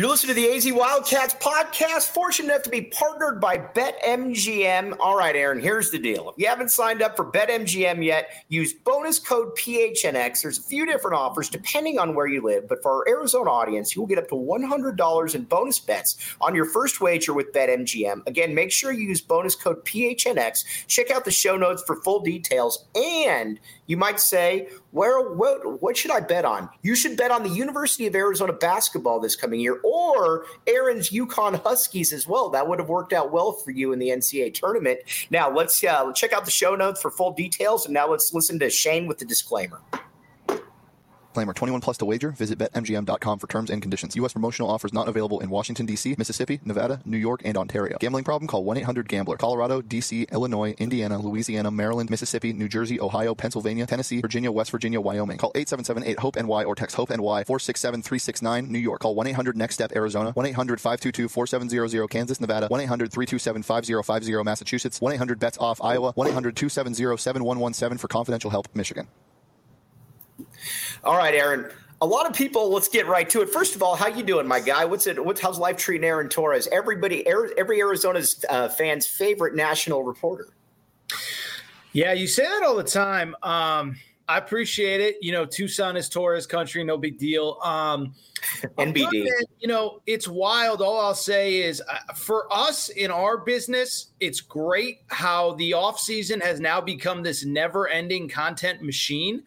You're listening to the AZ Wildcats podcast. Fortunate enough to be partnered by BetMGM. All right, Aaron, here's the deal. If you haven't signed up for BetMGM yet, use bonus code PHNX. There's a few different offers depending on where you live, but for our Arizona audience, you will get up to $100 in bonus bets on your first wager with BetMGM. Again, make sure you use bonus code PHNX. Check out the show notes for full details. And you might say, what should I bet on? You should bet on the University of Arizona basketball this coming year, or Aaron's UConn Huskies as well. That would have worked out well for you in the NCAA tournament. Now, let's check out the show notes for full details, and now let's listen to Shane with the disclaimer. Disclaimer, 21 plus to wager. Visit BetMGM.com for terms and conditions. U.S. promotional offers not available in Washington, D.C., Mississippi, Nevada, New York, and Ontario. Gambling problem? Call 1-800-GAMBLER. Colorado, D.C., Illinois, Indiana, Louisiana, Maryland, Mississippi, New Jersey, Ohio, Pennsylvania, Tennessee, Virginia, West Virginia, Wyoming. Call 877-8-HOPE-NY or text HOPE-NY 467-369. New York. Call 1-800-NEXT-STEP, Arizona. 1-800-522-4700, Kansas, Nevada. 1-800-327-5050, Massachusetts. 1-800-BETS-OFF, Iowa. 1-800-270-7117 for confidential help, Michigan. All right, Aaron. A lot of people, let's get right to it. First of all, how you doing, my guy? How's life treating Aaron Torres? Every Arizona's fan's favorite national reporter. Yeah, you say that all the time. I appreciate it. Tucson is Torres country, no big deal. NBD. It's wild. All I'll say is for us in our business, it's great how the offseason has now become this never-ending content machine.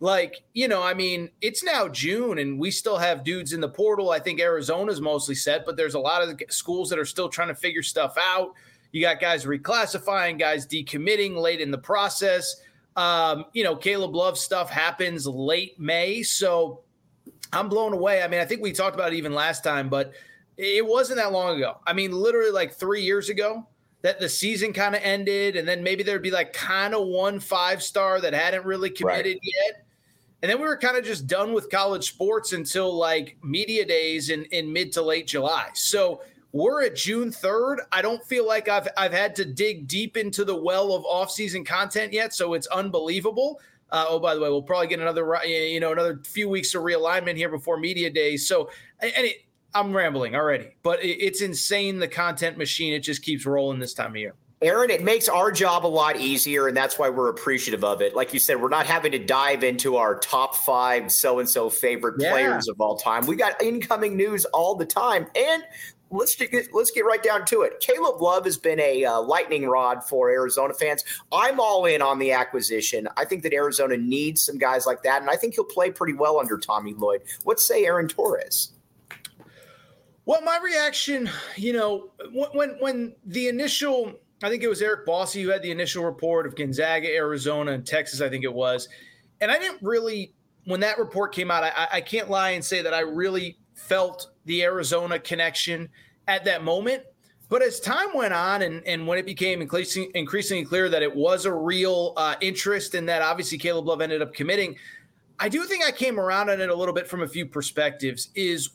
It's now June and we still have dudes in the portal. I think Arizona's mostly set, but there's a lot of schools that are still trying to figure stuff out. You got guys reclassifying, guys decommitting late in the process. Caleb Love stuff happens late May. So I'm blown away. I think we talked about it even last time, but it wasn't that long ago. Literally like 3 years ago that the season kind of ended. And then maybe there'd be like kind of one 5-star that hadn't really committed yet. And then we were kind of just done with college sports until like media days in mid to late July. So we're at June 3rd. I don't feel like I've had to dig deep into the well of offseason content yet. So it's unbelievable. By the way, we'll probably get another few weeks of realignment here before media days. So, I'm rambling already, but it's insane. The content machine, it just keeps rolling this time of year. Aaron, it makes our job a lot easier, and that's why we're appreciative of it. Like you said, we're not having to dive into our top 5 so-and-so favorite players of all time. We got incoming news all the time, and let's get right down to it. Caleb Love has been a lightning rod for Arizona fans. I'm all in on the acquisition. I think that Arizona needs some guys like that, and I think he'll play pretty well under Tommy Lloyd. What say Aaron Torres? Well, my reaction, when the initial – I think it was Eric Bossy who had the initial report of Gonzaga, Arizona, and Texas, I think it was. And I didn't really, when that report came out, I can't lie and say that I really felt the Arizona connection at that moment. But as time went on and when it became increasingly clear that it was a real interest and that obviously Caleb Love ended up committing, I do think I came around on it a little bit from a few perspectives.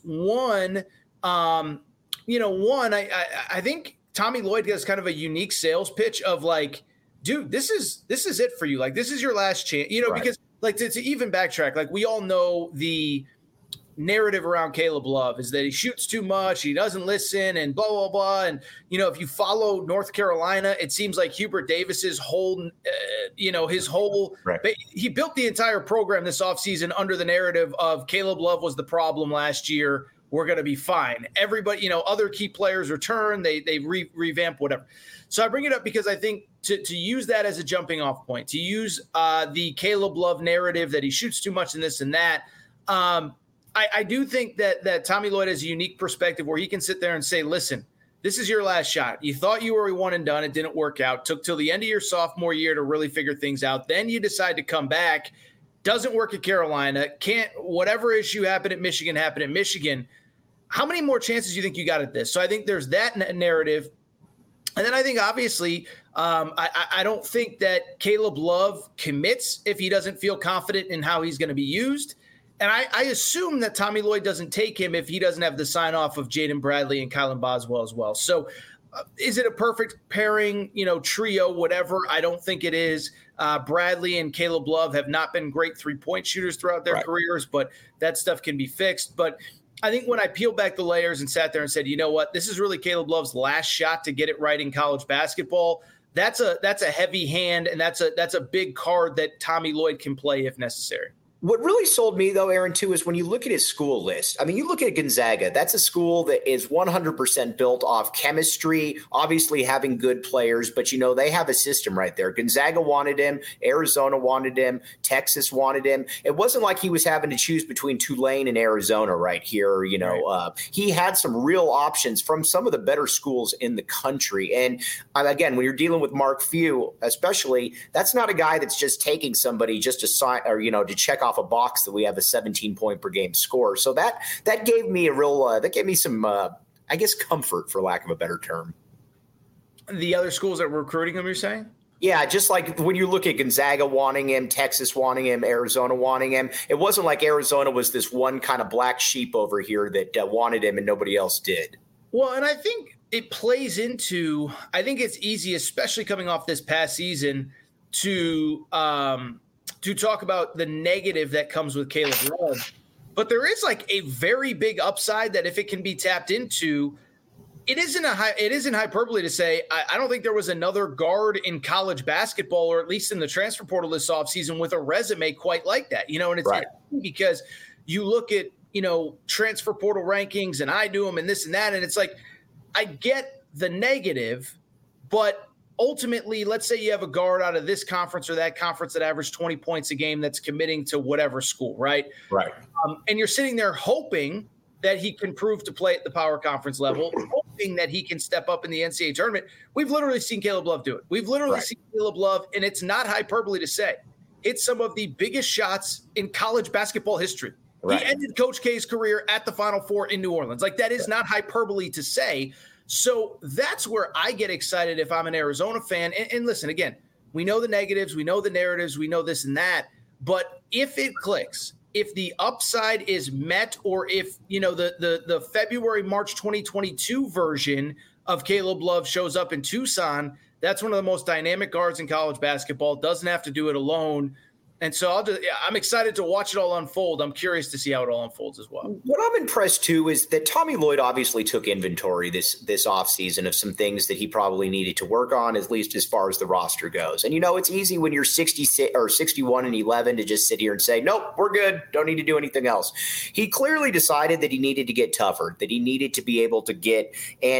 I think Tommy Lloyd has kind of a unique sales pitch of like, dude, this is it for you. Like, this is your last chance, right. Because like to even backtrack, like we all know the narrative around Caleb Love is that he shoots too much, he doesn't listen, and blah, blah, blah. And, if you follow North Carolina, it seems like Hubert Davis's whole, he built the entire program this offseason under the narrative of Caleb Love was the problem last year. We're going to be fine. Everybody, other key players return, they revamp, whatever. So I bring it up because I think to use that as a jumping off point, to use the Caleb Love narrative that he shoots too much and this and that, I do think that Tommy Lloyd has a unique perspective where he can sit there and say, listen, this is your last shot. You thought you were a one and done. It didn't work out. Took till the end of your sophomore year to really figure things out. Then you decide to come back. Doesn't work at Carolina. Whatever issue happened at Michigan happened at Michigan. How many more chances do you think you got at this? So I think there's that narrative. And then I think, obviously, I don't think that Caleb Love commits if he doesn't feel confident in how he's going to be used. And I assume that Tommy Lloyd doesn't take him if he doesn't have the sign-off of Jaden Bradley and Kylan Boswell as well. So is it a perfect pairing, trio, whatever? I don't think it is. Bradley and Caleb Love have not been great three-point shooters throughout their careers, but that stuff can be fixed. But I think when I peeled back the layers and sat there and said, you know what, this is really Caleb Love's last shot to get it right in college basketball. That's a heavy hand, and that's a big card that Tommy Lloyd can play if necessary. What really sold me, though, Aaron, too, is when you look at his school list. I mean, you look at Gonzaga. That's a school that is 100% built off chemistry, obviously having good players, but, they have a system right there. Gonzaga wanted him. Arizona wanted him. Texas wanted him. It wasn't like he was having to choose between Tulane and Arizona right here. Right. He had some real options from some of the better schools in the country. And, again, when you're dealing with Mark Few, especially, that's not a guy that's just taking somebody just to sign or, to check off a box that we have a 17-point per game score. So that gave me some I guess comfort, for lack of a better term. The other schools that were recruiting him, you're saying? Yeah, just like when you look at Gonzaga wanting him, Texas wanting him, Arizona wanting him, it wasn't like Arizona was this one kind of black sheep over here that wanted him and nobody else did. Well, and I think it plays into, I think it's easy, especially coming off this past season, to talk about the negative that comes with Caleb Love. But there is like a very big upside that if it can be tapped into, it isn't hyperbole to say, I don't think there was another guard in college basketball, or at least in the transfer portal this offseason, with a resume quite like that. And it's right. Because you look at, transfer portal rankings, and I do them and this and that. And it's like, I get the negative, but ultimately, let's say you have a guard out of this conference or that conference that averaged 20 points a game that's committing to whatever school, right? Right. And you're sitting there hoping that he can prove to play at the power conference level, hoping that he can step up in the NCAA tournament. We've literally seen Caleb Love do it. We've literally seen Caleb Love, and it's not hyperbole to say, hit some of the biggest shots in college basketball history. Right. He ended Coach K's career at the Final Four in New Orleans. Like, that is not hyperbole to say. So that's where I get excited if I'm an Arizona fan. And listen, again, we know the negatives, we know the narratives, we know this and that. But if it clicks, if the upside is met, or if, the February, March 2022 version of Caleb Love shows up in Tucson, that's one of the most dynamic guards in college basketball. Doesn't have to do it alone. And so I'm excited to watch it all unfold. I'm curious to see how it all unfolds as well. What I'm impressed, too, is that Tommy Lloyd obviously took inventory this offseason of some things that he probably needed to work on, at least as far as the roster goes. And, it's easy when you're 60 or 61-11 to just sit here and say, nope, we're good. Don't need to do anything else. He clearly decided that he needed to get tougher, that he needed to be able to get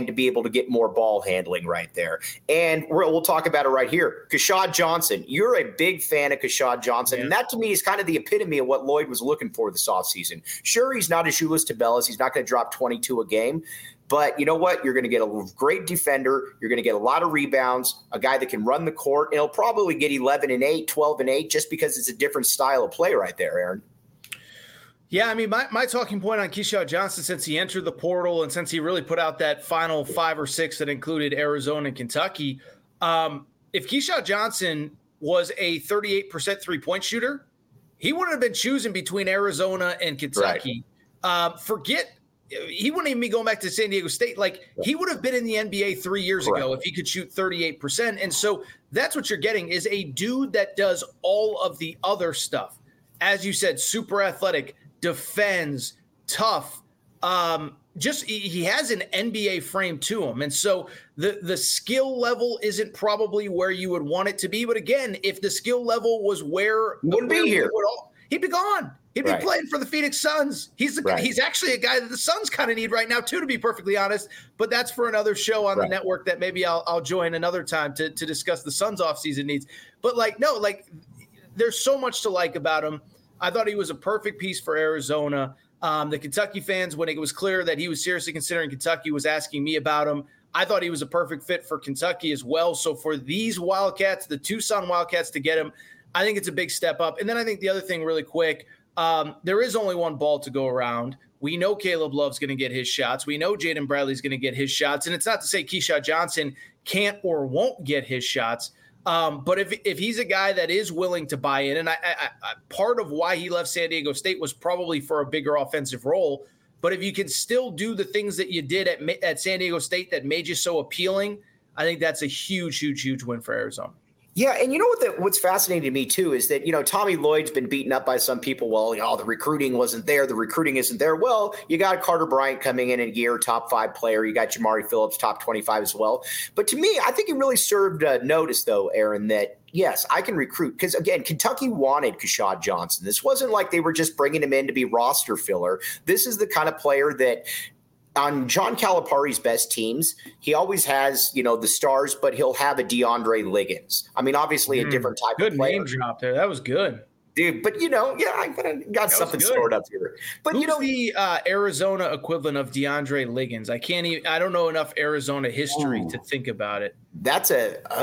more ball handling right there. And we'll talk about it right here. Keshad Johnson, you're a big fan of Keshad Johnson. Yeah. And that, to me, is kind of the epitome of what Lloyd was looking for this offseason. Sure, he's not as Julius Tabellas. He's not going to drop 22 a game. But you know what? You're going to get a great defender. You're going to get a lot of rebounds, a guy that can run the court. And he'll probably get 11 and 8, 12 and 8, just because it's a different style of play right there, Aaron. Yeah, I mean, my talking point on Keshad Johnson since he entered the portal and since he really put out that final 5 or 6 that included Arizona and Kentucky, if Keshad Johnson was a 38% three-point shooter, he wouldn't have been choosing between Arizona and Kentucky. Right. He wouldn't even be going back to San Diego State. Like, he would have been in the NBA 3 years ago if he could shoot 38%. And so that's what you're getting, is a dude that does all of the other stuff. As you said, super athletic, defends, tough, he has an NBA frame to him. And so the skill level isn't probably where you would want it to be. But again, if the skill level was where he wouldn't be here, he'd be gone. He'd be playing for the Phoenix Suns. He's actually a guy that the Suns kind of need right now too, to be perfectly honest. But that's for another show on the network that maybe I'll join another time to discuss the Suns offseason needs. But there's so much to like about him. I thought he was a perfect piece for Arizona. The Kentucky fans, when it was clear that he was seriously considering Kentucky, was asking me about him. I thought he was a perfect fit for Kentucky as well. So for these Wildcats, the Tucson Wildcats, to get him, I think it's a big step up. And then I think the other thing really quick, there is only one ball to go around. We know Caleb Love's going to get his shots. We know Jaden Bradley's going to get his shots. And it's not to say Keshad Johnson can't or won't get his shots. But if he's a guy that is willing to buy in, and I part of why he left San Diego State was probably for a bigger offensive role. But if you can still do the things that you did at San Diego State that made you so appealing, I think that's a huge, huge, huge win for Arizona. Yeah, and you know what's fascinating to me too is that Tommy Lloyd's been beaten up by some people. Well, the recruiting wasn't there. The recruiting isn't there. Well, you got Carter Bryant coming in a year, top 5 player. You got Jamari Phillips, top 25 as well. But to me, I think it really served notice though, Aaron, that yes, I can recruit because again, Kentucky wanted Keshad Johnson. This wasn't like they were just bringing him in to be roster filler. This is the kind of player that. On John Calipari's best teams, he always has, the stars, but he'll have a DeAndre Liggins. I mean, obviously a different type of player. Good name drop there. That was good. Dude, but I got something stored up here. But who's the Arizona equivalent of DeAndre Liggins? I don't know enough Arizona history to think about it. That's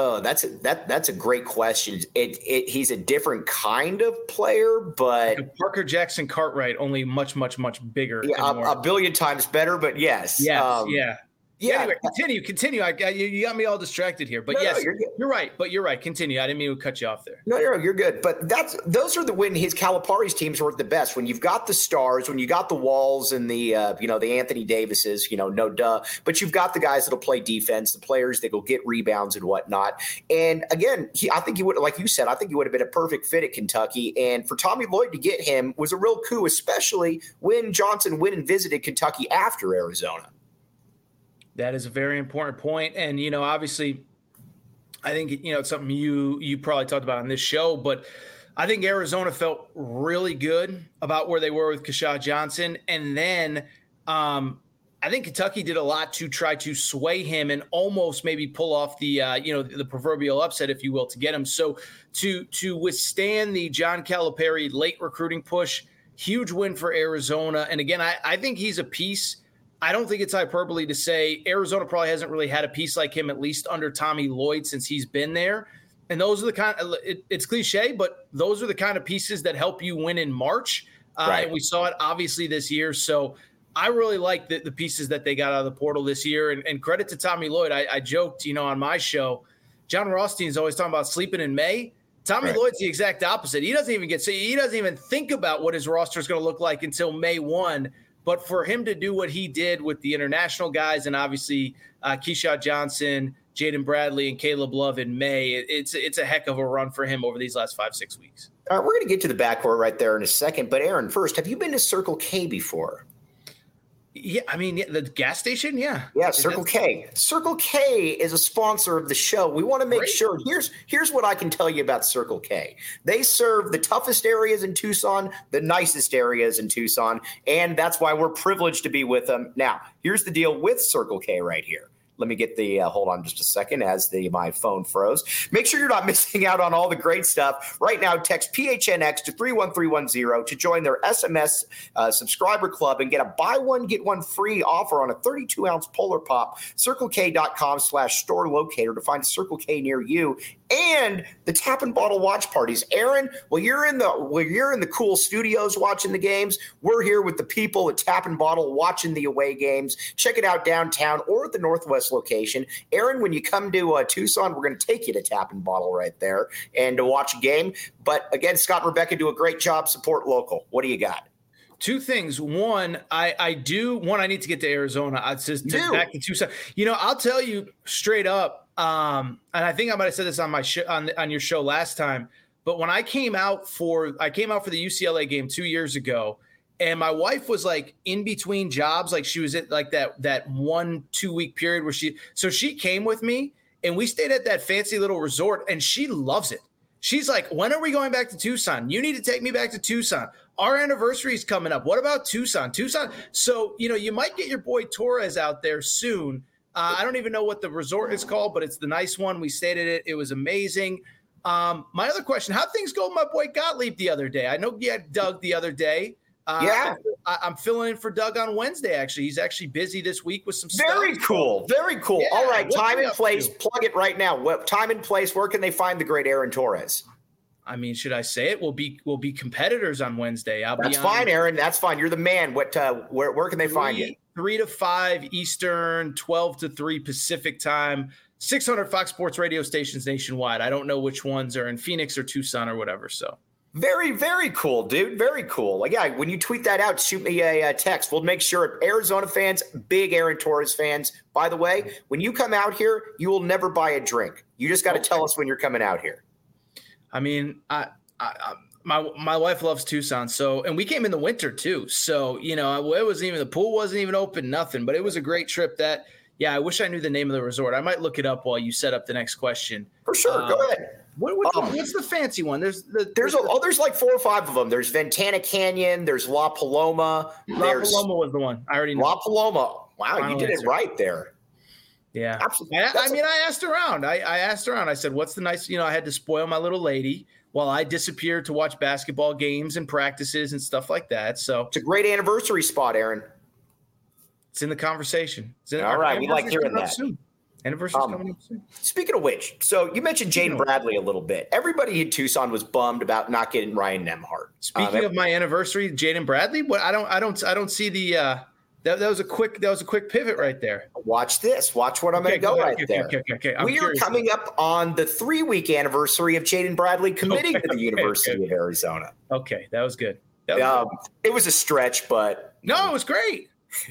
a great question. He's a different kind of player, but like Parker Jackson Cartwright, only much, much, much bigger. Yeah, a billion times better, but yes. Yes, yeah. Yeah. Anyway, continue. You got me all distracted here, but yes, you're right. But you're right. Continue. I didn't mean to cut you off there. No, you're good. But those are when his Calipari's teams were at the best. When you've got the stars, when you got the Walls and the the Anthony Davises, no duh. But you've got the guys that'll play defense, the players that will get rebounds and whatnot. And again, I think he would, like you said, I think he would have been a perfect fit at Kentucky. And for Tommy Lloyd to get him was a real coup, especially when Johnson went and visited Kentucky after Arizona. That is a very important point. And, obviously, I think, it's something you probably talked about on this show, but I think Arizona felt really good about where they were with Keshad Johnson. And then I think Kentucky did a lot to try to sway him and almost maybe pull off the, the proverbial upset, if you will, to get him. So to withstand the John Calipari late recruiting push, huge win for Arizona. And again, I think he's a piece. I don't think it's hyperbole to say Arizona probably hasn't really had a piece like him, at least under Tommy Lloyd, since he's been there. And those are the kind of, it's cliche, but those are the kind of pieces that help you win in March. Right. And we saw it obviously this year. So I really like the pieces that they got out of the portal this year. And credit to Tommy Lloyd. I joked, on my show, John Rothstein is always talking about sleeping in May. Tommy Lloyd's the exact opposite. He doesn't even think about what his roster is going to look like until May 1. But for him to do what he did with the international guys and obviously Keshad Johnson, Jaden Bradley, and Caleb Love in May, it's a heck of a run for him over these last 5-6 weeks. All right, we're going to get to the backcourt right there in a second. But Aaron, first, have you been to Circle K before? Yeah, I mean, the gas station, yeah. Yeah, Circle K. Circle K is a sponsor of the show. We want to make sure. Here's what I can tell you about Circle K. They serve the toughest areas in Tucson, the nicest areas in Tucson, and that's why we're privileged to be with them. Now, here's the deal with Circle K right here. Let me get the hold on just a second as my phone froze. Make sure you're not missing out on all the great stuff. Right now, text PHNX to 31310 to join their SMS subscriber club and get a buy one, get one free offer on a 32-ounce Polar Pop. CircleK.com/store locator to find a Circle K near you. And the Tap and Bottle watch parties. Aaron, while you're in the cool studios watching the games, we're here with the people at Tap and Bottle watching the away games. Check it out downtown or at the Northwest location. Aaron, when you come to Tucson, we're going to take you to Tap and Bottle right there and to watch a game. But again, Scott and Rebecca do a great job. Support local. What do you got? Two things. One, I need to get to Arizona. Back to Tucson. I'll tell you straight up. And I think I might have said this on my show, on your show last time, but when I came out for the UCLA game 2 years ago, and my wife was like in between jobs, like she was at like that 1-2 week period where she came with me and we stayed at that fancy little resort and she loves it. She's like, when are we going back to Tucson? You need to take me back to Tucson. Our anniversary is coming up. What about Tucson? So, you might get your boy Torres out there soon. I don't even know what the resort is called, but it's the nice one. We stayed at it. It was amazing. My other question, how'd things go with my boy Gottlieb the other day? I know you had Doug the other day. I'm filling in for Doug on Wednesday, actually. He's actually busy this week with some stuff. Very cool. Yeah, all right, time and place. Plug it right now. What time and place, where can they find the great Aaron Torres? I mean, should I say it? We'll be competitors on Wednesday. That's fine, Aaron. That's fine. You're the man. What? Where can they find you? 3 to 5 Eastern, 12 to 3 Pacific time. 600 Fox Sports radio stations nationwide. I don't know which ones are in Phoenix or Tucson or whatever. So Very, very cool, dude. Very cool. Like, yeah, when you tweet that out, shoot me a text. We'll make sure Arizona fans, big Aaron Torres fans. By the way, when you come out here, you will never buy a drink. You just got to tell us when you're coming out here. I mean, my wife loves Tucson, and we came in the winter too. So, it wasn't even, the pool wasn't even open, nothing, but it was a great trip. I wish I knew the name of the resort. I might look it up while you set up the next question. For sure. Go ahead. What's the fancy one? There's like 4 or 5 of them. There's Ventana Canyon. There's La Paloma. Paloma was the one. I already know. La Paloma. Wow, you did it right there. Yeah. Absolutely. I asked around. I asked around. I said, what's the nice, I had to spoil my little lady while I disappeared to watch basketball games and practices and stuff like that. So it's a great anniversary spot, Aaron. It's in the conversation. All right. We like hearing that. Anniversary's coming up soon. Speaking of which, so you mentioned Jaden Bradley a little bit. Everybody in Tucson was bummed about not getting Ryan Nembhard. Speaking of my anniversary, Jaden Bradley, I don't see the that was a quick pivot right there. Watch this. Watch what I'm going to go right there. Okay. We are coming up on the 3-week anniversary of Jaden Bradley committing to the University of Arizona. Okay, that was good. It was a stretch, but no, it was great.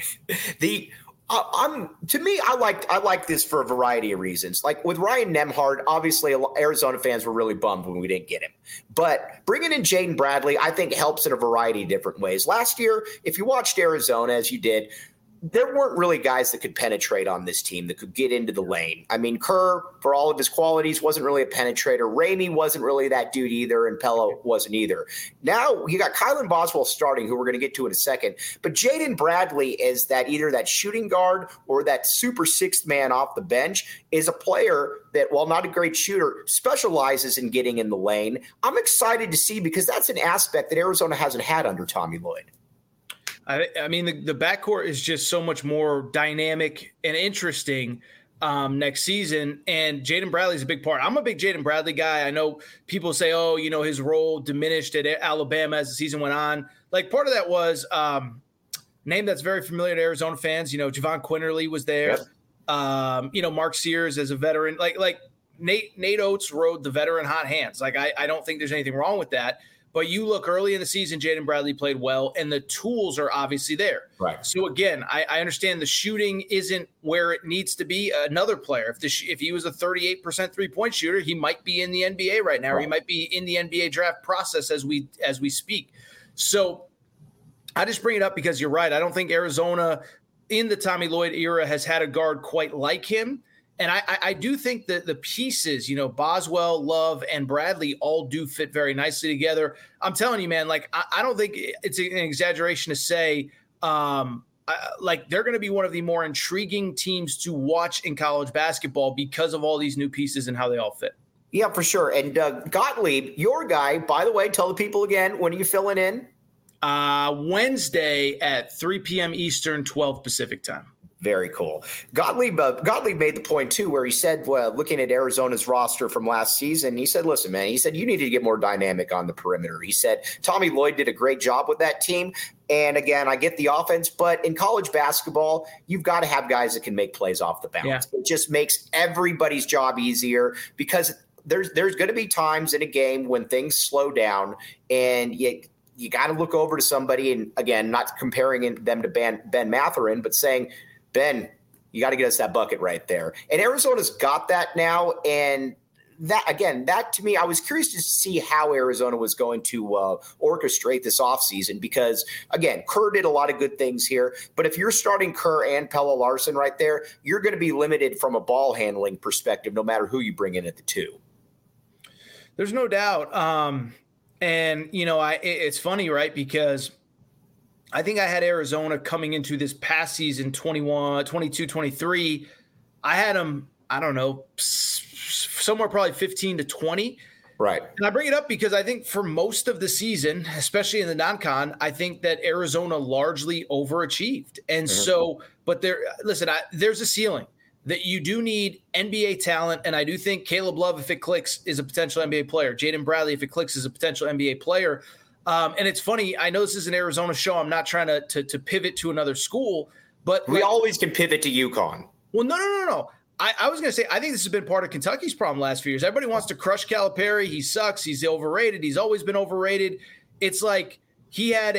To me, I like this for a variety of reasons. Like with Ryan Nembhard, obviously Arizona fans were really bummed when we didn't get him. But bringing in Jaden Bradley, I think helps in a variety of different ways. Last year, if you watched Arizona as you did, there weren't really guys that could penetrate on this team that could get into the lane. I mean, Kerr, for all of his qualities, wasn't really a penetrator. Ramey wasn't really that dude either, and Pello wasn't either. Now you got Kylan Boswell starting, who we're going to get to in a second. But Jaden Bradley is either that shooting guard or that super sixth man off the bench, is a player that, while not a great shooter, specializes in getting in the lane. I'm excited to see, because that's an aspect that Arizona hasn't had under Tommy Lloyd. I mean, the backcourt is just so much more dynamic and interesting next season, and Jaden Bradley's a big part. I'm a big Jaden Bradley guy. I know people say, his role diminished at Alabama as the season went on. Like, part of that was name that's very familiar to Arizona fans. Javon Quinterly was there. Yep. Mark Sears as a veteran. Like Nate Oates rode the veteran hot hands. Like, I don't think there's anything wrong with that. But you look early in the season, Jaden Bradley played well, and the tools are obviously there. Right. So, again, I understand the shooting isn't where it needs to be. Another player, if he was a 38% three-point shooter, he might be in the NBA right now, or he might be in the NBA draft process as we speak. So I just bring it up because you're right. I don't think Arizona in the Tommy Lloyd era has had a guard quite like him. And I do think that the pieces, Boswell, Love, and Bradley all do fit very nicely together. I'm telling you, man, like, I don't think it's an exaggeration to say, they're going to be one of the more intriguing teams to watch in college basketball because of all these new pieces and how they all fit. Yeah, for sure. And Gottlieb, your guy, by the way, tell the people again, when are you filling in? Wednesday at 3 p.m. Eastern, 12 Pacific time. Very cool. Gottlieb made the point, too, where he said, looking at Arizona's roster from last season, he said, listen, man, he said, you need to get more dynamic on the perimeter. He said, Tommy Lloyd did a great job with that team. And again, I get the offense, but in college basketball, you've got to have guys that can make plays off the bounce. Yeah. It just makes everybody's job easier, because there's going to be times in a game when things slow down, and you got to look over to somebody, and again, not comparing them to Ben Mathurin, but saying, Ben, you got to get us that bucket right there. And Arizona's got that now. And that to me, I was curious to see how Arizona was going to orchestrate this offseason, because, again, Kerr did a lot of good things here. But if you're starting Kerr and Pelle Larsson right there, you're going to be limited from a ball handling perspective, no matter who you bring in at the 2. There's no doubt. It's funny, right? Because I think I had Arizona coming into this past season, 21, 22, 23. I had them, I don't know, somewhere probably 15 to 20. Right. And I bring it up because I think for most of the season, especially in the non-con, I think that Arizona largely overachieved. And so, but there's a ceiling that you do need NBA talent. And I do think Caleb Love, if it clicks, is a potential NBA player. Jaden Bradley, if it clicks, is a potential NBA player. And it's funny, I know this is an Arizona show. I'm not trying to pivot to another school, but we always can pivot to UConn. Well, no. I was going to say, I think this has been part of Kentucky's problem last few years. Everybody wants to crush Calipari. He sucks. He's overrated. He's always been overrated. It's like he had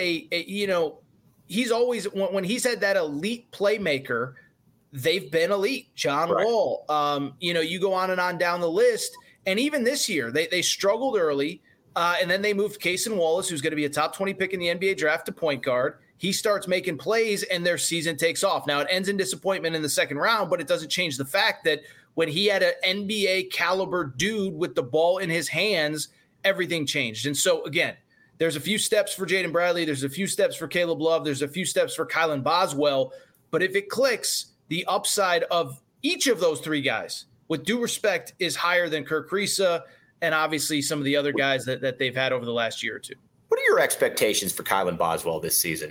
he's always, when he's had that elite playmaker, they've been elite. John Wall, you go on and on down the list. And even this year, they struggled early. And then they moved Cason Wallace, who's going to be a top 20 pick in the NBA draft, to point guard. He starts making plays and their season takes off. Now it ends in disappointment in the second round, but it doesn't change the fact that when he had an NBA caliber dude with the ball in his hands, everything changed. And so again, there's a few steps for Jaden Bradley. There's a few steps for Caleb Love. There's a few steps for Kylan Boswell. But if it clicks, the upside of each of those three guys, with due respect, is higher than Kerr Kriisa and obviously some of the other guys that they've had over the last year or two. What are your expectations for Kylan Boswell this season?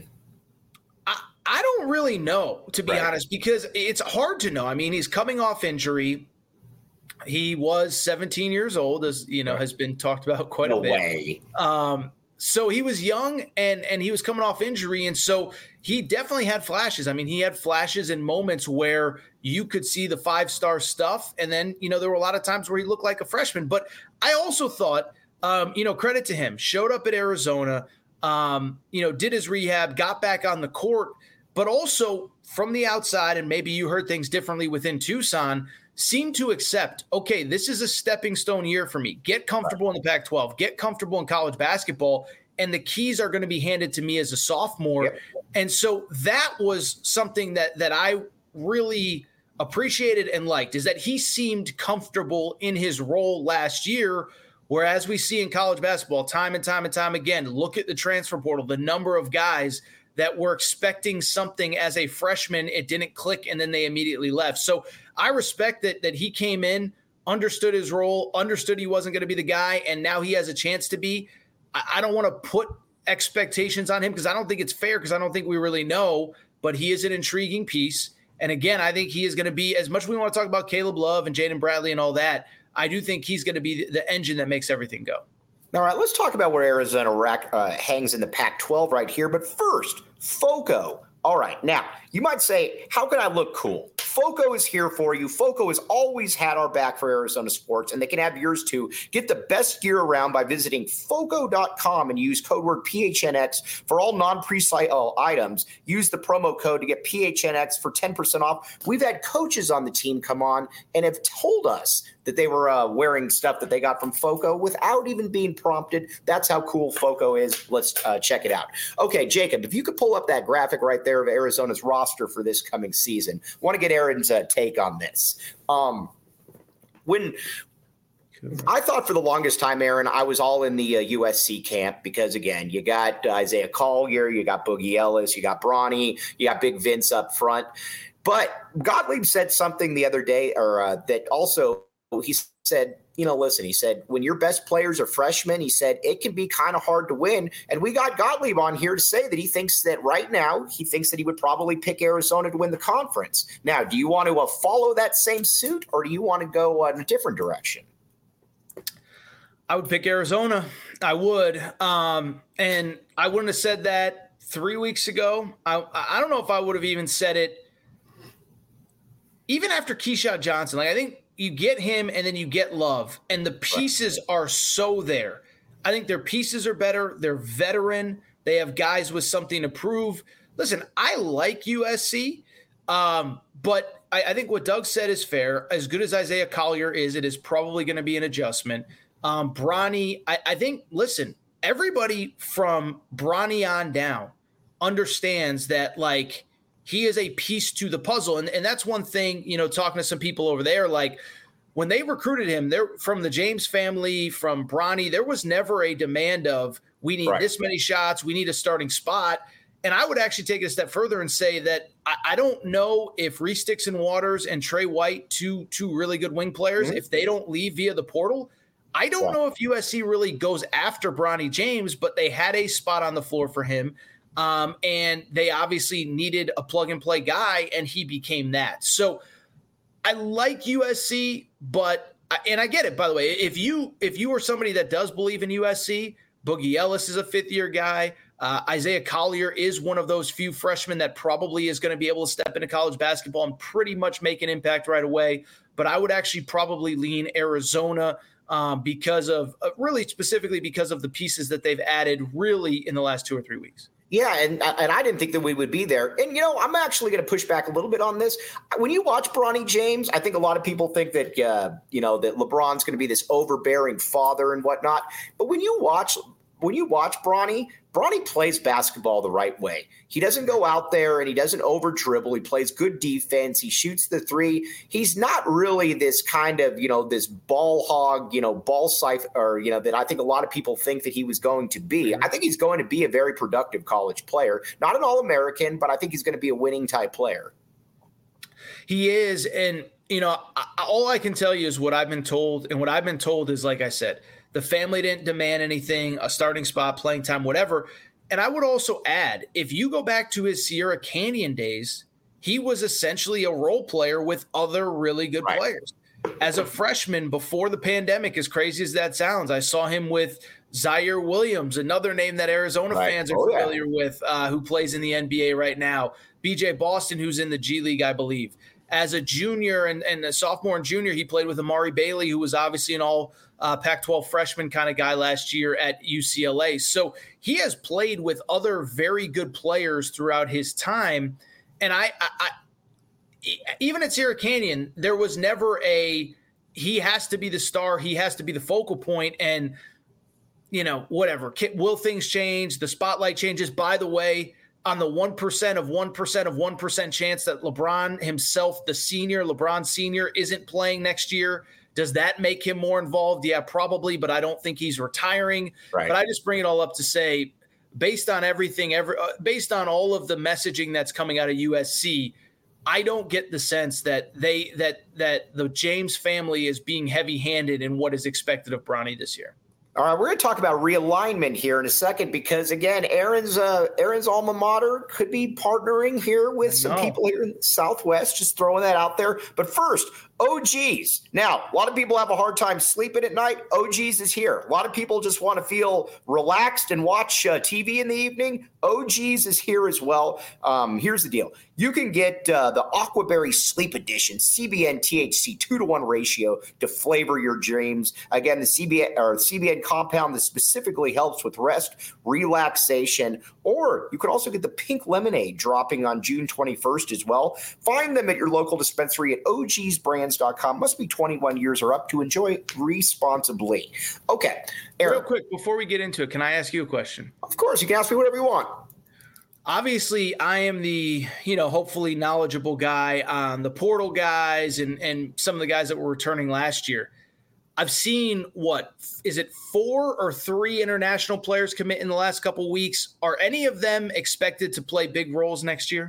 I don't really know, to be honest, because it's hard to know. I mean, he's coming off injury. He was 17 years old, as has been talked about quite a bit. So he was young and he was coming off injury. And so he definitely had flashes. I mean, he had flashes in moments where you could see the 5-star stuff. And then, there were a lot of times where he looked like a freshman. But I also thought, credit to him, showed up at Arizona, did his rehab, got back on the court, but also from the outside, and maybe you heard things differently within Tucson, seemed to accept, okay, this is a stepping stone year for me. Get comfortable in the Pac-12, get comfortable in college basketball, and the keys are going to be handed to me as a sophomore. Yep. And so that was something that I really appreciated and liked, is that he seemed comfortable in his role last year, whereas we see in college basketball time and time again, look at the transfer portal, the number of guys that were expecting something as a freshman, it didn't click, and then they immediately left. So I respect that he came in, understood his role, understood he wasn't going to be the guy, and now he has a chance to be. I don't want to put expectations on him because I don't think it's fair, because I don't think we really know, but he is an intriguing piece. And again, I think he is going to be, as much as we want to talk about Caleb Love and Jaden Bradley and all that, I do think he's going to be the engine that makes everything go. All right, let's talk about where Arizona hangs in the Pac-12 right here. But first, FOCO. All right, now, you might say, how can I look cool? FOCO is here for you. FOCO has always had our back for Arizona sports, and they can have yours too. Get the best gear around by visiting FOCO.com and use code word PHNX for all non-pre-sale items. Use the promo code to get PHNX for 10% off. We've had coaches on the team come on and have told us that they were wearing stuff that they got from FOCO without even being prompted. That's how cool FOCO is. Let's check it out. Okay, Jacob, if you could pull up that graphic right there of Arizona's roster for this coming season. I want to get Aaron's take on this. When I thought for the longest time, Aaron, I was all in the USC camp because, again, you got Isaiah Collier, you got Boogie Ellis, you got Bronny, you got Big Vince up front. But Gottlieb said something the other day, or that also he said, listen, he said, when your best players are freshmen, he said, it can be kind of hard to win. And we got Gottlieb on here to say that he thinks that right now, he thinks that he would probably pick Arizona to win the conference. Now, do you want to follow that same suit, or do you want to go in a different direction? I would pick Arizona. I would. And I wouldn't have said that 3 weeks ago. I don't know if I would have even said it even after Keyshawn Johnson. I think you get him and then you get Love, and the pieces are so there. I think their pieces are better. They're veteran. They have guys with something to prove. Listen, I like USC, but I think what Doug said is fair. As good as Isaiah Collier is, it is probably going to be an adjustment. Bronny, I think, listen, everybody from Bronny on down understands that, he is a piece to the puzzle. And that's one thing, talking to some people over there, when they recruited him, they're from the James family, from Bronny, there was never a demand of, we need this many shots, we need a starting spot. And I would actually take it a step further and say that I don't know if Reese Dixon Waters and Trey White, two really good wing players, if they don't leave via the portal, I don't know if USC really goes after Bronny James, but they had a spot on the floor for him. And they obviously needed a plug-and-play guy, and he became that. So I like USC, and I get it, by the way. If you are somebody that does believe in USC, Boogie Ellis is a fifth-year guy. Isaiah Collier is one of those few freshmen that probably is going to be able to step into college basketball and pretty much make an impact right away. But I would actually probably lean Arizona because of really specifically because of the pieces that they've added really in the last 2 or 3 weeks. Yeah, and I didn't think that we would be there. And, I'm actually going to push back a little bit on this. When you watch Bronny James, I think a lot of people think that, that LeBron's going to be this overbearing father and whatnot. But when you watch Bronny plays basketball the right way. He doesn't go out there and he doesn't over dribble. He plays good defense. He shoots the three. He's not really this kind of, this ball hog, ball siphon, or, that I think a lot of people think that he was going to be. I think he's going to be a very productive college player. Not an All-American, but I think he's going to be a winning type player. He is. And, all I can tell you is what I've been told. And what I've been told is, like I said, the family didn't demand anything, a starting spot, playing time, whatever. And I would also add, if you go back to his Sierra Canyon days, he was essentially a role player with other really good players. As a freshman before the pandemic, as crazy as that sounds, I saw him with Zaire Williams, another name that Arizona fans are familiar with, who plays in the NBA right now. BJ Boston, who's in the G League, I believe. As a junior and a sophomore and junior, he played with Amari Bailey, who was obviously an all Pac-12 freshman kind of guy last year at UCLA. So he has played with other very good players throughout his time. And I even at Sierra Canyon, there was never he has to be the star. He has to be the focal point. And, whatever. Will things change? The spotlight changes. By the way, on the 1% of 1% of 1% chance that LeBron himself, the senior, LeBron Sr., isn't playing next year, does that make him more involved? Yeah, probably, but I don't think he's retiring. Right. But I just bring it all up to say, based on everything, based on all of the messaging that's coming out of USC, I don't get the sense that that the James family is being heavy-handed in what is expected of Bronny this year. All right, we're going to talk about realignment here in a second because, again, Aaron's alma mater could be partnering here with some people here in the Southwest, just throwing that out there. But first, OGs. Now, a lot of people have a hard time sleeping at night. OGs is here. A lot of people just want to feel relaxed and watch TV in the evening. OGs is here as well. Here's the deal. You can get the Aquaberry Sleep Edition, CBN THC 2-to-1 ratio to flavor your dreams. Again, the CBN compound that specifically helps with rest, relaxation, or you could also get the pink lemonade dropping on June 21st as well. Find them at your local dispensary at ogsbrands.com. Must be 21 years or up to enjoy responsibly. Okay, Aaron. Real quick, before we get into it, can I ask you a question? Of course, you can ask me whatever you want. Obviously, I am the, hopefully knowledgeable guy on the portal guys and some of the guys that were returning last year. I've seen, is it 4 or 3 international players commit in the last couple of weeks? Are any of them expected to play big roles next year?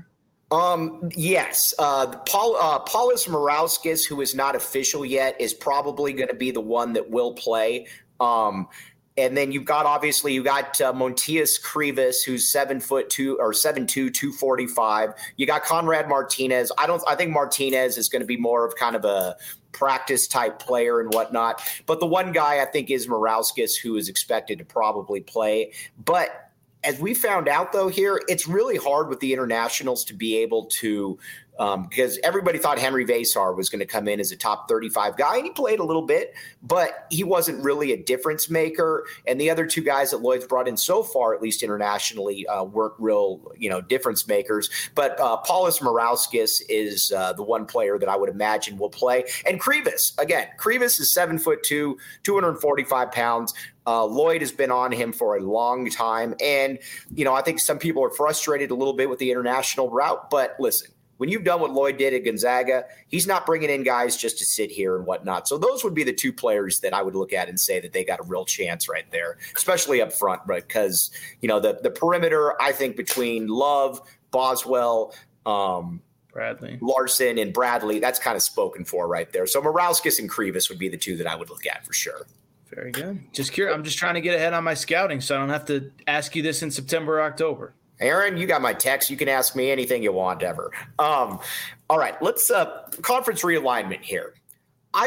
Yes. Paulus Morauskas, who is not official yet, is probably going to be the one that will play. And then you got Montias Krivas, who's 7'2" or 7'2", 245. You got Conrad Martinez. I think Martinez is going to be more of kind of a practice type player and whatnot. But the one guy I think is Morauskas, who is expected to probably play. But as we found out, though, here, it's really hard with the internationals to be able to because everybody thought Henry Vasar was going to come in as a top 35 guy, and he played a little bit, but he wasn't really a difference maker. And the other 2 guys that Lloyd's brought in so far, at least internationally, weren't real, difference makers. But Paulus Morauskas is the one player that I would imagine will play. And Krivas is 7'2", 245 pounds. Lloyd has been on him for a long time. And, I think some people are frustrated a little bit with the international route. But listen, when you've done what Lloyd did at Gonzaga, he's not bringing in guys just to sit here and whatnot. So those would be the 2 players that I would look at and say that they got a real chance right there, especially up front, right? Because, the perimeter, I think between Love, Boswell, Bradley, Larson, and Bradley, that's kind of spoken for right there. So Morauskas and Krivas would be the 2 that I would look at for sure. Very good. Just curious. I'm just trying to get ahead on my scouting so I don't have to ask you this in September or October. Aaron, you got my text. You can ask me anything you want ever. All right, let's conference realignment here.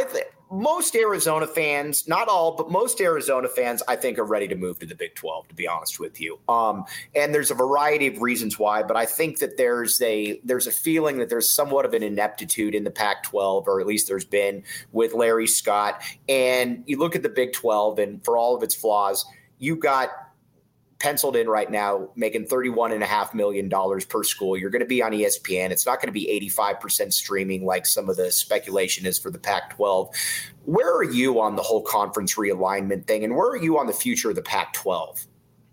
most Arizona fans, not all, but most Arizona fans, I think, are ready to move to the Big 12, to be honest with you. And there's a variety of reasons why, but I think that there's a feeling that there's somewhat of an ineptitude in the Pac-12, or at least there's been with Larry Scott. And you look at the Big 12, and for all of its flaws, you got penciled in right now making $31.5 million per school. You're going to be on ESPN. It's not going to be 85% streaming like some of the speculation is for the Pac-12. Where are you on the whole conference realignment thing, and where are you on the future of the Pac-12?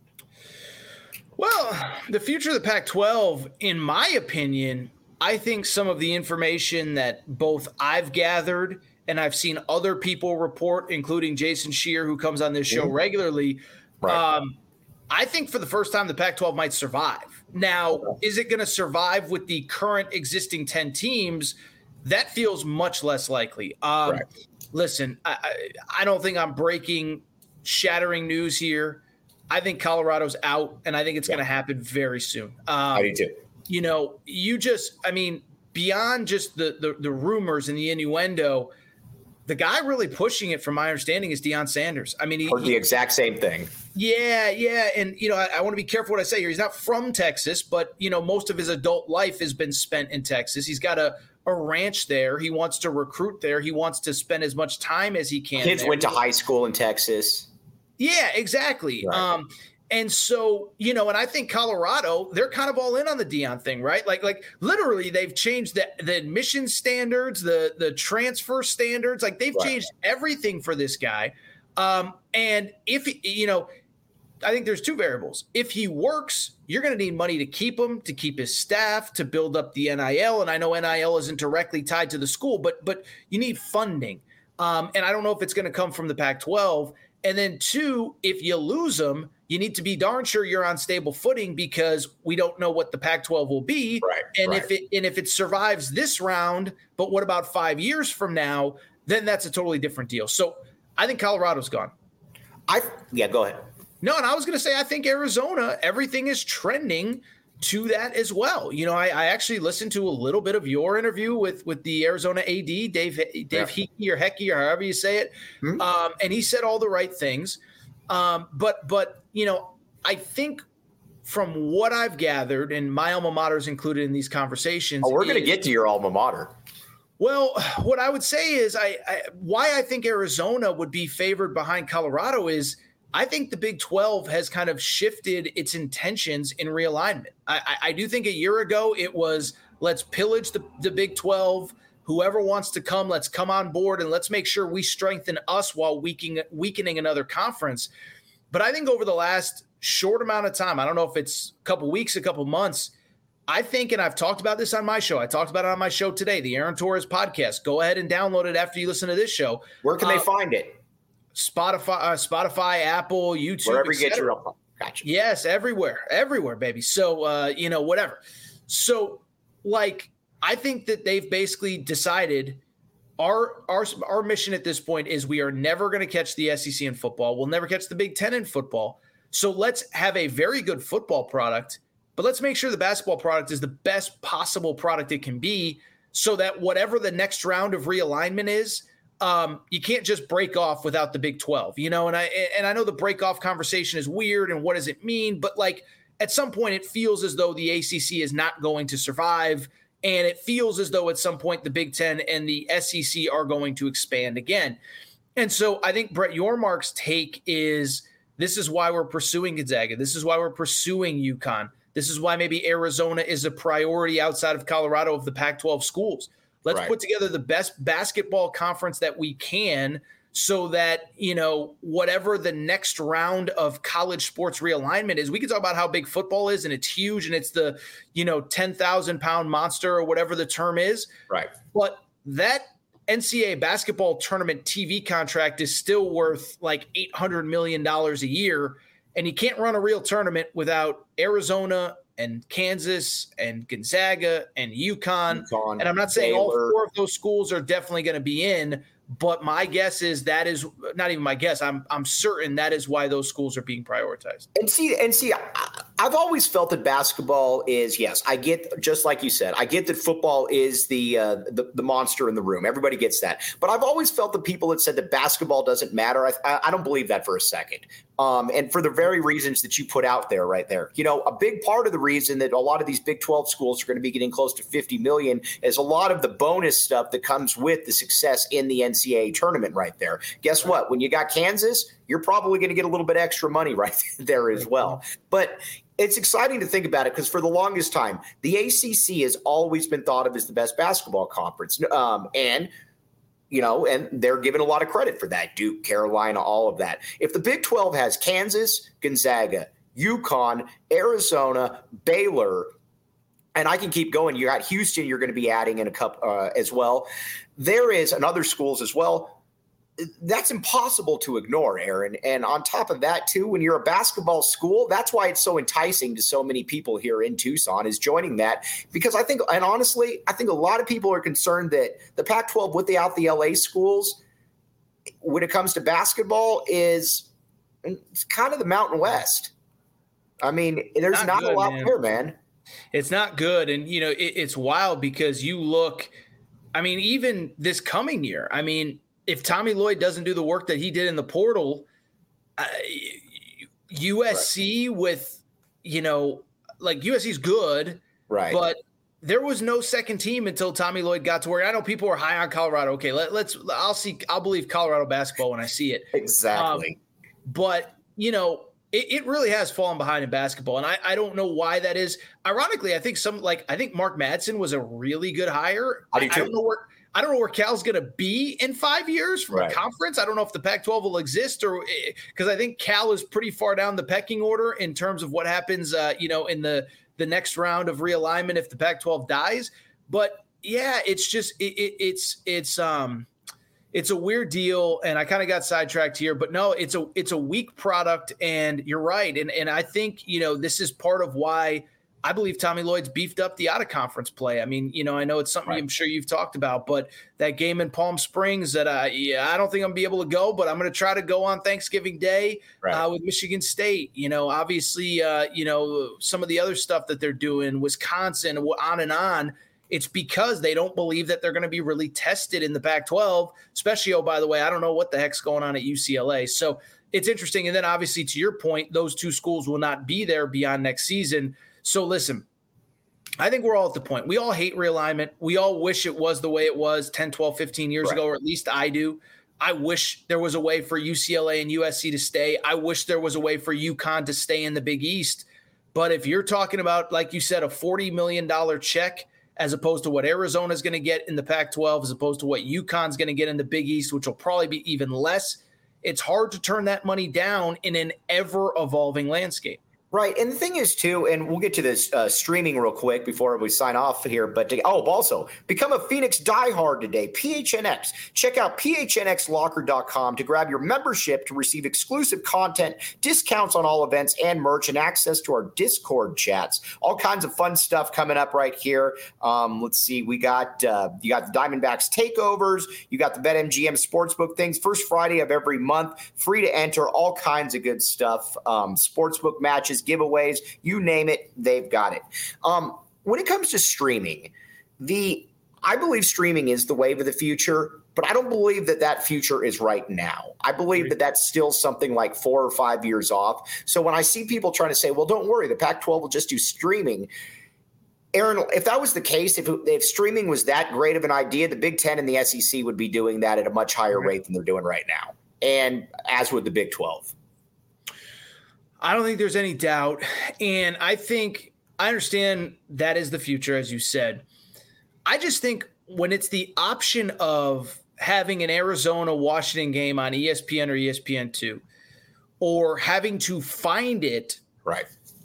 Well, the future of the Pac-12, in my opinion, I think some of the information that both I've gathered and I've seen other people report, including Jason Scheer, who comes on this show regularly, right. I think for the first time, the Pac-12 might survive. Now, is it going to survive with the current existing 10 teams? That feels much less likely. Right. Listen, I don't think I'm breaking shattering news here. I think Colorado's out, and I think it's going to happen very soon. I do too. You know, beyond just the rumors and the innuendo, the guy really pushing it, from my understanding, is Deion Sanders. I mean, heard the exact same thing. Yeah. And, you know, I want to be careful what I say here. He's not from Texas, but, you know, most of his adult life has been spent in Texas. He's got a ranch there. He wants to recruit there. He wants to spend as much time as he can. Kids went to high school in Texas. Yeah, exactly. Right. And so, you know, and I think Colorado, they're kind of all in on the Deion thing, right? Like literally they've changed the admission standards, the transfer standards. Like they've changed everything for this guy. And if, you know, I think there's two variables. If he works, you're going to need money to keep him, to keep his staff, to build up the NIL. And I know NIL isn't directly tied to the school, but you need funding. And I don't know if it's going to come from the Pac-12. And then two, if you lose him, you need to be darn sure you're on stable footing, because we don't know what the Pac-12 will be. Right, and if it survives this round, but what about 5 years from now, then that's a totally different deal. So I think Colorado's gone. Go ahead. No, and I was going to say, I think Arizona, everything is trending to that as well. You know, I actually listened to a little bit of your interview with the Arizona AD, Dave Hickey or Hecky, or however you say it. Mm-hmm. And he said all the right things. But you know, I think from what I've gathered, and my alma mater is included in these conversations. Oh, we're going to get to your alma mater. Well, what I would say is why I think Arizona would be favored behind Colorado is I think the Big 12 has kind of shifted its intentions in realignment. I do think a year ago it was, let's pillage the Big 12. Whoever wants to come, let's come on board, and let's make sure we strengthen us while weakening another conference. But I think over the last short amount of time, I don't know if it's a couple weeks, a couple months, I think, and I've talked about this on my show. I talked about it on my show today, the Aaron Torres podcast. Go ahead and download it after you listen to this show. Where can they find it? Spotify, Apple, YouTube, wherever you get your own. Gotcha. Yes, everywhere, baby. So, you know, whatever. So, like, I think that they've basically decided our mission at this point is we are never going to catch the SEC in football. We'll never catch the Big Ten in football. So let's have a very good football product, but let's make sure the basketball product is the best possible product it can be, so that whatever the next round of realignment is, you can't just break off without the Big 12, you know? And I know the break off conversation is weird, and what does it mean? But like at some point it feels as though the ACC is not going to survive. And it feels as though at some point the Big Ten and the SEC are going to expand again. And so I think Brett Yormark's take is, this is why we're pursuing Gonzaga. This is why we're pursuing UConn. This is why maybe Arizona is a priority outside of Colorado of the Pac-12 schools. Let's put together the best basketball conference that we can, so that, you know, whatever the next round of college sports realignment is, we can talk about how big football is, and it's huge, and it's the, you know, 10,000 pound monster or whatever the term is. Right. But that NCAA basketball tournament TV contract is still worth like $800 million a year. And you can't run a real tournament without Arizona and Kansas and Gonzaga and UConn. And I'm not saying all four of those schools are definitely going to be in, but my guess is that is not even my guess. I'm certain that is why those schools are being prioritized. And see, I've always felt that basketball is, yes, I get, just like you said, I get that football is the monster in the room. Everybody gets that. But I've always felt the people that said that basketball doesn't matter, I don't believe that for a second. And for the very reasons that you put out there right there. You know, a big part of the reason that a lot of these Big 12 schools are going to be getting close to $50 million is a lot of the bonus stuff that comes with the success in the NCAA tournament right there. Guess what? When you got Kansas, you're probably going to get a little bit extra money right there as well. But it's exciting to think about it because for the longest time, the ACC has always been thought of as the best basketball conference. And they're given a lot of credit for that. Duke, Carolina, all of that. If the Big 12 has Kansas, Gonzaga, UConn, Arizona, Baylor, and I can keep going. You got Houston you're going to be adding in a cup as well. There is, and other schools as well. That's impossible to ignore, Aaron. And on top of that, too, when you're a basketball school, that's why it's so enticing to so many people here in Tucson is joining that. Because I think, and honestly, I think a lot of people are concerned that the Pac-12 without the LA schools, when it comes to basketball, it's kind of the Mountain West. I mean, there's not a lot there, man. It's not good. And, it's wild because you look, I mean, even this coming year, I mean, if Tommy Lloyd doesn't do the work that he did in the portal, USC with, USC's good, right? But there was no second team until Tommy Lloyd got to where I know people are high on Colorado. Okay, I'll believe Colorado basketball when I see it. Exactly. But it really has fallen behind in basketball, and I don't know why that is. Ironically, I think Mark Madsen was a really good hire. I don't know where Cal's going to be in 5 years from a conference. I don't know if the Pac-12 will exist because I think Cal is pretty far down the pecking order in terms of what happens, in the next round of realignment if the Pac-12 dies. But yeah, it's just it's a weird deal, and I kind of got sidetracked here. But no, it's a weak product, and you're right. And I think this is part of why I believe Tommy Lloyd's beefed up the out-of-conference play. I mean, I know it's something I'm sure you've talked about, but that game in Palm Springs that I don't think I'm going to be able to go, but I'm going to try to go on Thanksgiving Day with Michigan State. Obviously, some of the other stuff that they're doing, Wisconsin, on and on. It's because they don't believe that they're going to be really tested in the Pac-12, especially, by the way, I don't know what the heck's going on at UCLA. So it's interesting. And then obviously, to your point, those two schools will not be there beyond next season. So listen, I think we're all at the point. We all hate realignment. We all wish it was the way it was 10, 12, 15 years ago, or at least I do. I wish there was a way for UCLA and USC to stay. I wish there was a way for UConn to stay in the Big East. But if you're talking about, like you said, a $40 million check as opposed to what Arizona's going to get in the Pac-12, as opposed to what UConn's going to get in the Big East, which will probably be even less, it's hard to turn that money down in an ever-evolving landscape. Right. And the thing is, too, and we'll get to this streaming real quick before we sign off here. But also become a Phoenix diehard today. PHNX. Check out phnxlocker.com to grab your membership to receive exclusive content, discounts on all events and merch, and access to our Discord chats. All kinds of fun stuff coming up right here. Let's see. We got you got the Diamondbacks takeovers. You got the BetMGM Sportsbook things. First Friday of every month. Free to enter. All kinds of good stuff. Sportsbook matches, giveaways, you name it, they've got it. When it comes to streaming, I believe streaming is the wave of the future, but I don't believe that future is right now. I believe that that's still something like 4 or 5 years off. So when I see people trying to say, well, don't worry, the Pac-12 will just do streaming. Aaron, if that was the case, if streaming was that great of an idea, the Big Ten and the SEC would be doing that at a much higher rate than they're doing right now, and as would the Big 12. I don't think there's any doubt. And I understand that is the future, as you said. I just think when it's the option of having an Arizona-Washington game on ESPN or ESPN2, or having to find it, right?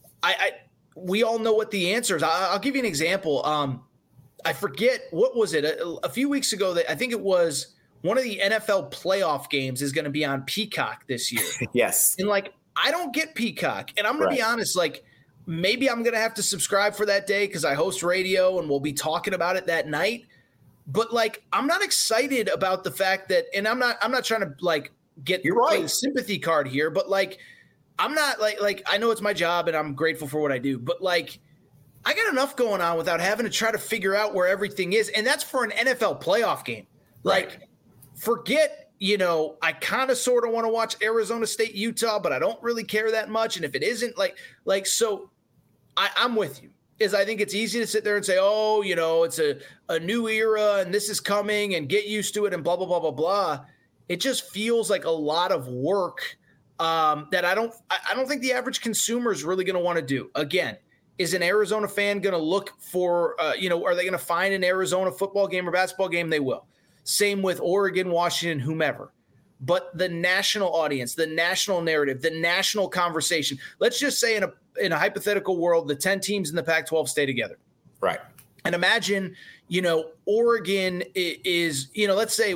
We all know what the answer is. I'll give you an example. I forget, what was it? A few weeks ago, I think it was one of the NFL playoff games is going to be on Peacock this year. Yes. And I don't get Peacock, and I'm going to be honest, maybe I'm going to have to subscribe for that day because I host radio and we'll be talking about it that night. But I'm not excited about the fact that, and I'm not trying to get You're right. a sympathy card here, but I'm not like I know it's my job and I'm grateful for what I do, but like I got enough going on without having to try to figure out where everything is. And that's for an NFL playoff game. Like, forget, I kind of sort of want to watch Arizona State, Utah, but I don't really care that much. And if it isn't so I'm with you. I think it's easy to sit there and say, oh, it's a new era and this is coming and get used to it and blah, blah, blah, blah, blah. It just feels like a lot of work that I don't think the average consumer is really going to want to do. Again, is an Arizona fan going to look for, are they going to find an Arizona football game or basketball game? They will. Same with Oregon, Washington, whomever. But the national audience, the national narrative, the national conversation, let's just say in a hypothetical world, the 10 teams in the Pac-12 stay together. Right. And imagine, Oregon is, let's say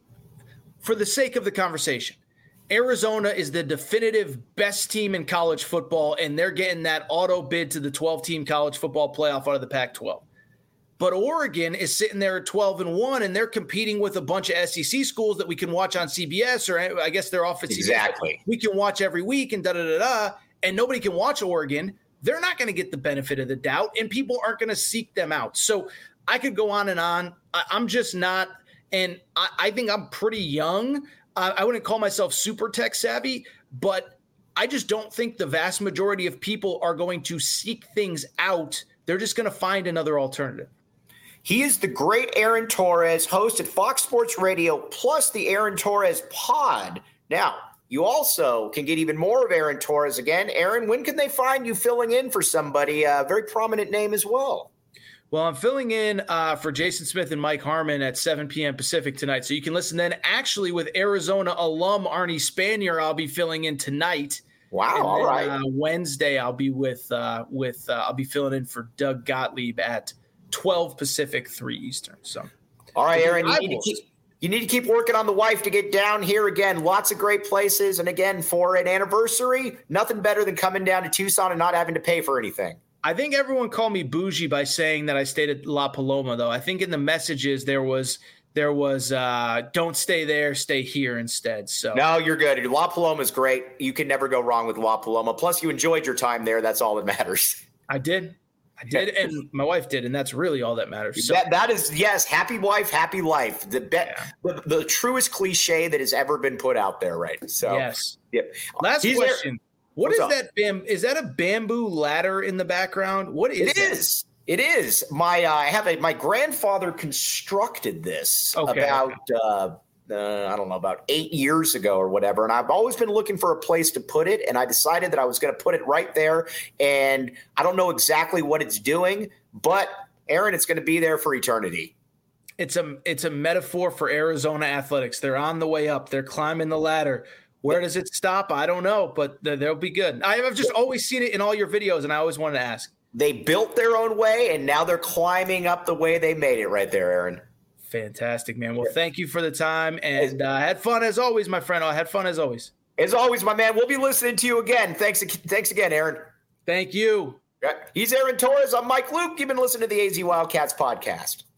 for the sake of the conversation, Arizona is the definitive best team in college football, and they're getting that auto bid to the 12-team college football playoff out of the Pac-12. But Oregon is sitting there at 12-1, and they're competing with a bunch of SEC schools that we can watch on CBS, or I guess they're off at CBS. Exactly. We can watch every week and da-da-da-da, and nobody can watch Oregon. They're not going to get the benefit of the doubt, and people aren't going to seek them out. So I could go on and on. I'm just not, and I think I'm pretty young. I wouldn't call myself super tech savvy, but I just don't think the vast majority of people are going to seek things out. They're just going to find another alternative. He is the great Aaron Torres, host at Fox Sports Radio, plus the Aaron Torres pod. Now, you also can get even more of Aaron Torres again. Aaron, when can they find you filling in for somebody, a very prominent name as well? Well, I'm filling in for Jason Smith and Mike Harmon at 7 p.m. Pacific tonight. So you can listen then. Actually, with Arizona alum Arnie Spanier, I'll be filling in tonight. Wow, and all then, right. Wednesday, I'll be I'll be filling in for Doug Gottlieb at 12 Pacific, 3 Eastern. So, all right, Aaron, you need to keep working on the wife to get down here again. Lots of great places. And again, for an anniversary, nothing better than coming down to Tucson and not having to pay for anything. I think everyone called me bougie by saying that I stayed at La Paloma, though. I think in the messages there was don't stay there, stay here instead. So no, you're good. La Paloma is great. You can never go wrong with La Paloma. Plus, you enjoyed your time there. That's all that matters. I did, and my wife did, and that's really all that matters. So. That is, yes, happy wife, happy life. The truest cliche that has ever been put out there, right? So yes. Yep. Last question. What is that? Is that a bamboo ladder in the background? What is that? It is. My grandfather constructed this about I don't know, about 8 years ago or whatever. And I've always been looking for a place to put it. And I decided that I was going to put it right there. And I don't know exactly what it's doing, but Aaron, it's going to be there for eternity. It's a metaphor for Arizona athletics. They're on the way up. They're climbing the ladder. Where does it stop? I don't know, but they'll be good. I've just always seen it in all your videos, and I always wanted to ask. They built their own way, and now they're climbing up the way they made it right there, Aaron. Fantastic, man. Well, thank you for the time, and had fun as always, my friend. I had fun as always. As always, my man. We'll be listening to you again. Thanks again, Aaron. Thank you. He's Aaron Torres. I'm Mike Luke. You've been listening to the AZ Wildcats podcast.